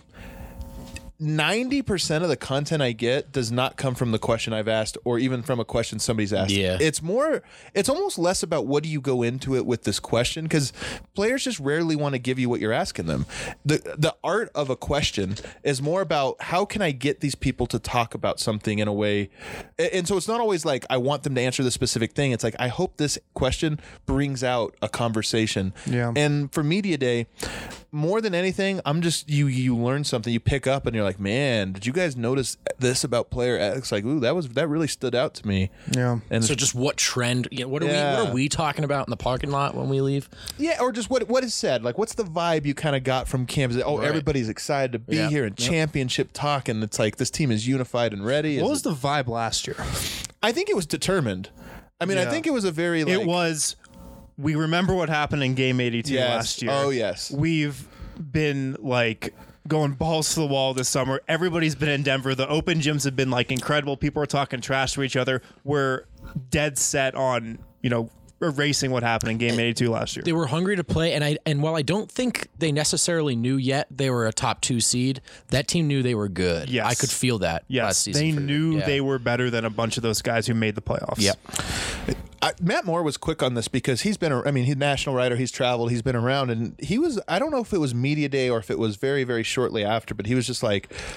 90% of the content I get does not come from the question I've asked or even from a question somebody's asked. Yeah. It's almost less about what do you go into it with this question, because players just rarely want to give you what you're asking them. The art of a question is more about how can I get these people to talk about something in a way. And so it's not always like I want them to answer the specific thing. It's like I hope this question brings out a conversation. Yeah. And for Media Day, more than anything, I'm just you learn something, you pick up and you're like, man, did you guys notice this about player X? Like, ooh, that really stood out to me. Yeah. And So just what trend? What are we talking about in the parking lot when we leave? yeah, or just what is said. Like, what's the vibe you kind of got from camp? Is it, Right. everybody's excited to be here and championship talk, and it's like this team is unified and ready. What was the vibe last year? I think it was determined. I mean, I Yeah. think it was a very like, It was, we remember what happened in Game 82 Yes. last year. Oh, yes. We've been like going balls to the wall this summer. Everybody's been in Denver. The open gyms have been like incredible. People are talking trash to each other. We're dead set on, erasing what happened in Game 82 last year. They were hungry to play, and while I don't think they necessarily knew yet they were a top 2 seed, that team knew they were good. Yes. I could feel that last Yes, season. they knew Yeah. they were better than a bunch of those guys who made the playoffs. Yep. Matt Moore was quick on this because he's been, he's a national writer, he's traveled, he's been around, and he was, I don't know if it was Media Day or if it was very, very shortly after, but he was just like,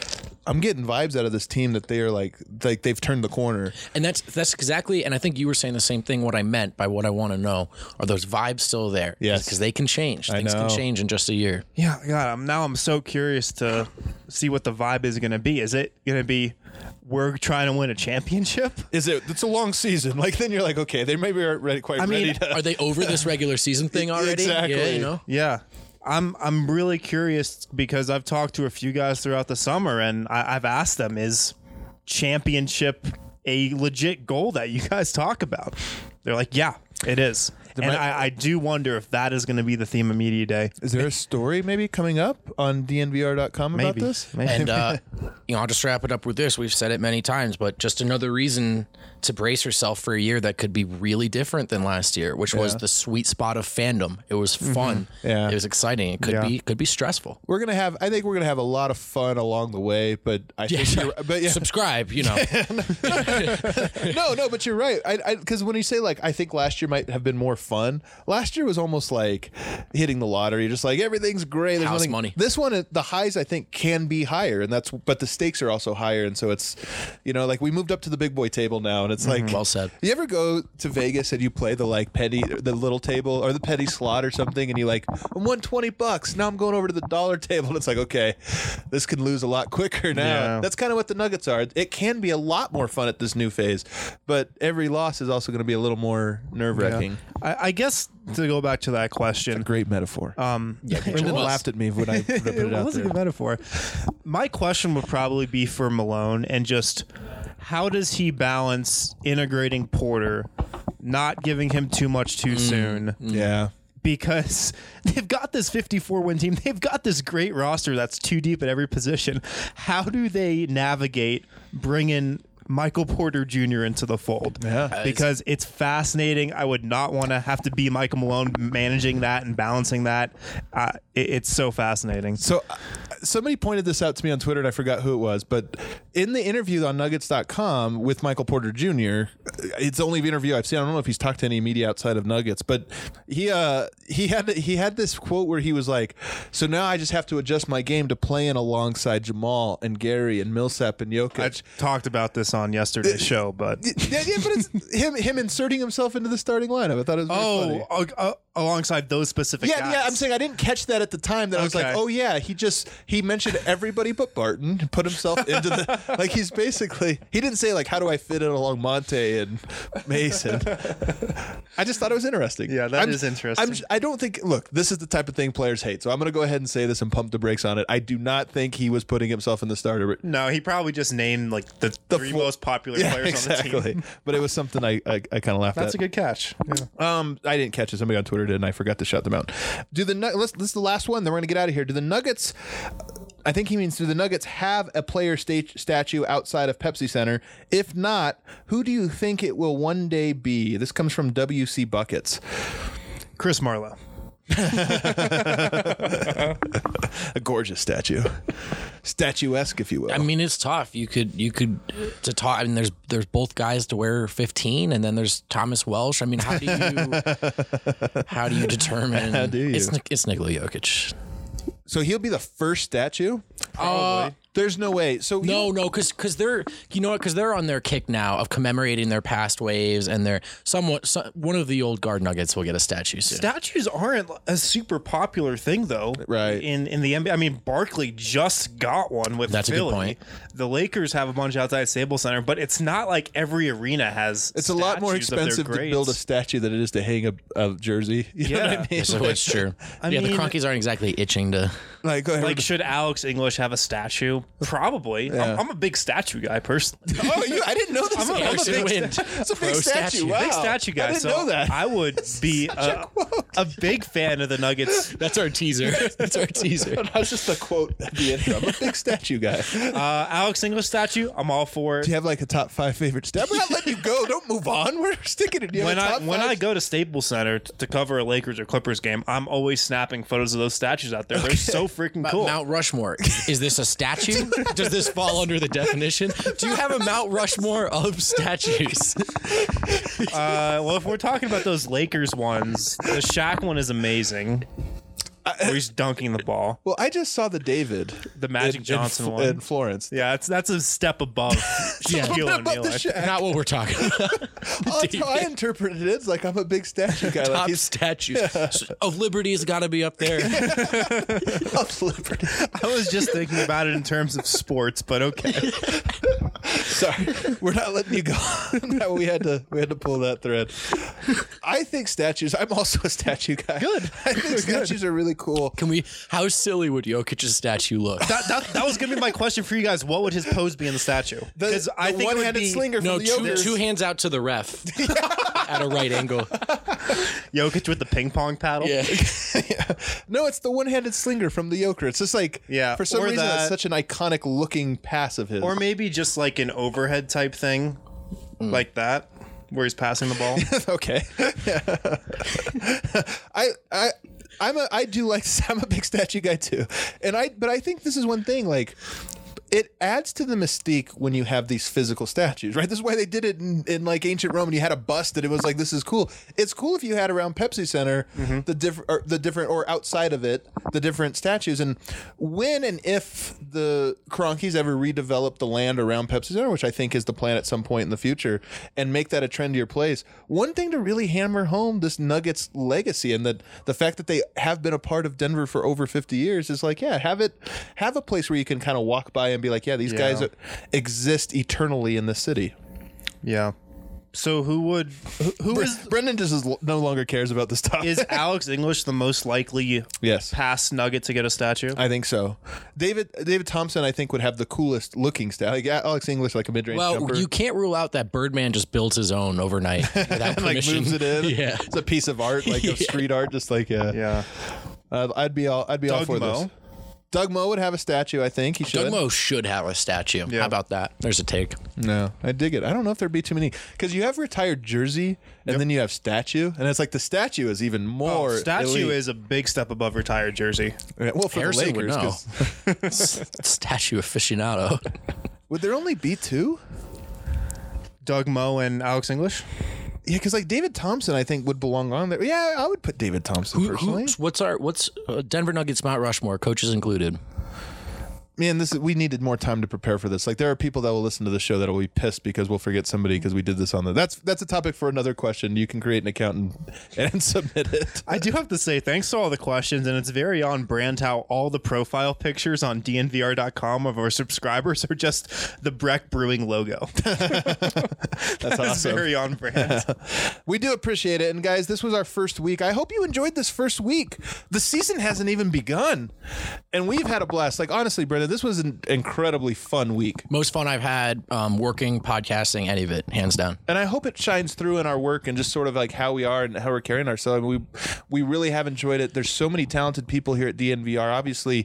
I'm getting vibes out of this team that they are like they've turned the corner. And that's exactly, and I think you were saying the same thing. What I meant by what I want to know, are those vibes still there? Yes. Because they can change. Things know. can change in just a year. Yeah, God, I'm so curious to see what the vibe is going to be. Is it going to be we're trying to win a championship? It's a long season. Like then you're like, okay, they maybe aren't ready ready to. Are they over this regular season thing already? Exactly. Yeah, you know? Yeah. I'm really curious because I've talked to a few guys throughout the summer and I've asked them, is championship a legit goal that you guys talk about? They're like, yeah, it is. And I do wonder if that is going to be the theme of Media Day. Is there a story maybe coming up on dnvr.com about Maybe. this? Maybe. And I'll just wrap it up with this. We've said it many times, but just another reason to brace yourself for a year that could be really different than last year, which was the sweet spot of fandom. It was fun. Yeah. It was exciting. It could be stressful. I think we're gonna have a lot of fun along the way, but I think Subscribe, you know. No, but you're right. Because when you say like, I think last year might have been more fun. Last year was almost like hitting the lottery. Just like everything's great. There's House nothing. money. This one, the highs I think can be higher, but the stakes are also higher, and so it's, like we moved up to the big boy table now, and it's like Well said. You ever go to Vegas and you play the like the little table or the penny slot or something, and you like, I won $20. Now I'm going over to the dollar table, and it's like, okay, this can lose a lot quicker now. Yeah. That's kind of what the Nuggets are. It can be a lot more fun at this new phase, but every loss is also going to be a little more nerve-wracking. I guess to go back to that question, Great metaphor. Brendan was. laughed at me when I put it out was a there. good metaphor. My question would probably be for Malone and just how does he balance integrating Porter, not giving him too much too soon? Yeah. Because they've got this 54-win team. They've got this great roster that's too deep at every position. How do they navigate bringing Michael Porter Jr. into the fold? Yeah. Because it's fascinating. I would not want to have to be Michael Malone managing that and balancing that. It's so fascinating. So somebody pointed this out to me on Twitter, and I forgot who it was, but in the interview on Nuggets.com with Michael Porter Jr., it's the only interview I've seen. I don't know if he's talked to any media outside of Nuggets, but he had this quote where he was like, so now I just have to adjust my game to playing alongside Jamal and Gary and Millsap and Jokic. I talked about this on yesterday's show, but but it's him inserting himself into the starting lineup. I thought it was very funny. Alongside those specific guys. Yeah, I'm saying I didn't catch that at the time. That I was like, Okay. oh yeah, he mentioned everybody but Barton, and put himself into the like he's basically he didn't say like how do I fit in along Monte and Mason. I just thought it was interesting. Yeah, that is interesting. I don't think. Look, this is the type of thing players hate. So I'm going to go ahead and say this and pump the brakes on it. I do not think he was putting himself in the starter. No, he probably just named like the three most popular Yeah, players exactly. on the team. But it was something I kind of laughed That's at. a good catch. Yeah. I didn't catch it. Somebody on Twitter did, and I forgot to shout them out. This is the last one. Then we're going to get out of here. Do the Nuggets? I think he means, do the Nuggets have a player statue outside of Pepsi Center? If not, who do you think it will one day be? This comes from WC Buckets. Chris Marlowe. A gorgeous statue, statuesque, if you will. I mean, it's tough. You could to talk. I mean, there's both guys to wear 15, and then there's Thomas Welsh. I mean, how do you determine? How do you? It's Nikola Jokic. So he'll be the first statue. Probably. There's no way. So No, because they're because they're on their kick now of commemorating their past waves, and they're one of the old guard Nuggets will get a statue soon. Statues aren't a super popular thing, though. Right. In the NBA, I mean, Barkley just got one with That's a good Philly. point. The Lakers have a bunch outside Staples Center, but it's not like every arena has. It's a lot more statues of their expensive to greats. build a statue than it is to hang a jersey. You know what I mean? So it's true. I the mean- Cronkies aren't exactly itching to. Like, should Alex English have a statue? Probably. Yeah. I'm a big statue guy personally. Oh, I didn't know this. I'm a Anderson big Wind. It's a big Pro statue. Wow. Big statue guy. I didn't so know that. I would be a big fan of the Nuggets. That's our teaser. That's our teaser. That's just a quote at the intro. I'm a big statue guy. Do Alex English statue, I'm all for it. you have like a top 5 favorite statue? We're not letting you go. Don't move on. We're sticking it. When I go to Staples Center to cover a Lakers or Clippers game, I'm always snapping photos of those statues out there. They're so freaking cool. Mount Rushmore. Is this a statue? Does this fall under the definition? Do you have a Mount Rushmore of statues? Well, if we're talking about those Lakers ones, the Shaq one is amazing. where he's dunking the ball. Well, I just saw the David, The Magic Johnson one. in Florence. Yeah, that's a step above Shaquille Above the O'Neal. Shaq. Not what we're talking about. Oh, that's how I interpreted it. It's like I'm a big statue guy. Top Like he's statues of Liberty has got to be up there. of liberty. I was just thinking about it in terms of sports, but okay. Sorry, we're not letting you go. No, we had to pull that thread. I think statues. I'm also a statue guy. Good. I think statues are really cool. Can we? How silly would Jokic's statue look? That was going to be my question for you guys. What would his pose be in the statue? The I think it would one-handed be slinger No, from the Jokers. two hands out to the ref at a right angle. Jokic with the ping pong paddle. Yeah. No, it's the one-handed slinger from the Joker. It's just like, for some or reason, that- it's such an iconic looking pass of his. Or maybe just like an overhead type thing, like that, where he's passing the ball. Okay. I'm a big statue guy too. But I think this is one thing, like, it adds to the mystique when you have these physical statues, right? This is why they did it in like ancient Rome, and you had a bust that it was like, this is cool. It's cool if you had around Pepsi Center the different or outside of it the different statues. And when and if the Kroenkes ever redevelop the land around Pepsi Center, which I think is the plan at some point in the future, and make that a trendier place, one thing to really hammer home this Nuggets legacy and the fact that they have been a part of Denver for over 50 years is like, yeah, have a place where you can kind of walk by and be like, yeah, these guys exist eternally in this city. Yeah. So who is Brendan just no longer cares about this topic. is Alex English the most likely Yes. past Nugget to get a statue? I think so. David Thompson, I think, would have the coolest looking style. Like Alex English, like a mid-range Well, jumper. you can't rule out that Birdman just builds his own overnight without like permission. moves it in. Yeah. It's a piece of art, like of street art, just like Yeah. I'd be all for Moe? this. Doug Moe would have a statue. I think he should. Doug Moe should have a statue. Yeah. How about that? There's a take. No, I dig it. I don't know if there'd be too many because you have retired jersey and then you have statue, and it's like the statue is even more. Statue elite. is a big step above retired jersey. well for Harrison the would Lakers. know. 'Cause Statue aficionado. would there only be two? Doug Moe and Alex English? Yeah, because like David Thompson, I think would belong on there. Yeah, I would put David Thompson personally. What's Denver Nuggets Mount Rushmore, coaches included? Man, we needed more time to prepare for this. Like, there are people that will listen to the show that will be pissed because we'll forget somebody because we did this on the. That's a topic for another question. You can create an account and submit it. I do have to say thanks to all the questions, and it's very on brand how all the profile pictures on dnvr.com of our subscribers are just the Breck Brewing logo. That's It's awesome. very on brand. We do appreciate it. And guys, this was our first week. I hope you enjoyed this first week. The season hasn't even begun, and we've had a blast. Like, honestly, Brendan, this was an incredibly fun week. Most fun I've had working, podcasting, any of it, hands down. And I hope it shines through in our work and just sort of like how we are and how we're carrying ourselves. I mean, we really have enjoyed it. There's so many talented people here at DNVR. Obviously,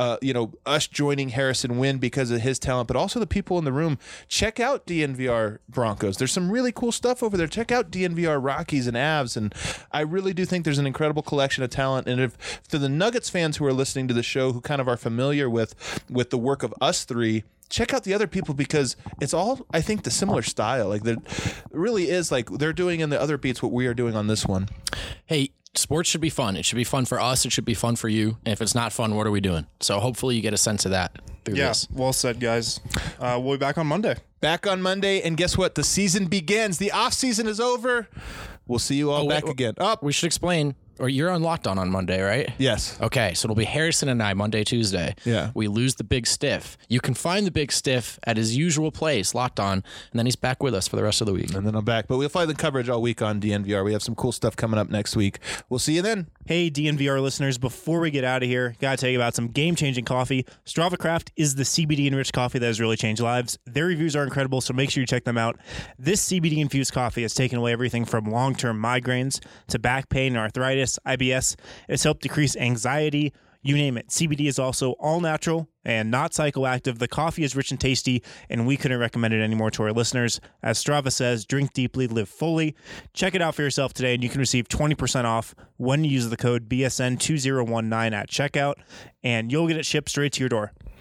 us joining Harrison Wind because of his talent, but also the people in the room. Check out DNVR Broncos. There's some really cool stuff over there. Check out DNVR Rockies and Avs. And I really do think there's an incredible collection of talent. And if for the Nuggets fans who are listening to the show who kind of are familiar with the work of us three, check out the other people because it's all, I think, the similar style. Like, there really is, like, they're doing in the other beats what we are doing on this one. Hey, sports should be fun. It should be fun for us. It should be fun for you. And if it's not fun, what are we doing? So hopefully you get a sense of that through this. Well said, guys. We'll be back on Monday. Back on Monday, and guess what? The season begins. The off season is over. We'll see you all back again. We should explain. Or you're on Locked On Monday, right? Yes. Okay, so it'll be Harrison and I Monday, Tuesday. Yeah. We lose the Big Stiff. You can find the Big Stiff at his usual place, Locked On, and then he's back with us for the rest of the week. And then I'm back. But we'll find the coverage all week on DNVR. We have some cool stuff coming up next week. We'll see you then. Hey, DNVR listeners, before we get out of here, got to tell you about some game-changing coffee. Strava Craft is the CBD-enriched coffee that has really changed lives. Their reviews are incredible, so make sure you check them out. This CBD-infused coffee has taken away everything from long-term migraines to back pain and arthritis, IBS. It's helped decrease anxiety, you name it. CBD is also all natural and not psychoactive. The coffee is rich and tasty, and we couldn't recommend it anymore to our listeners. As Strava says, drink deeply, live fully. Check it out for yourself today, and you can receive 20% off when you use the code BSN2019 at checkout, and you'll get it shipped straight to your door.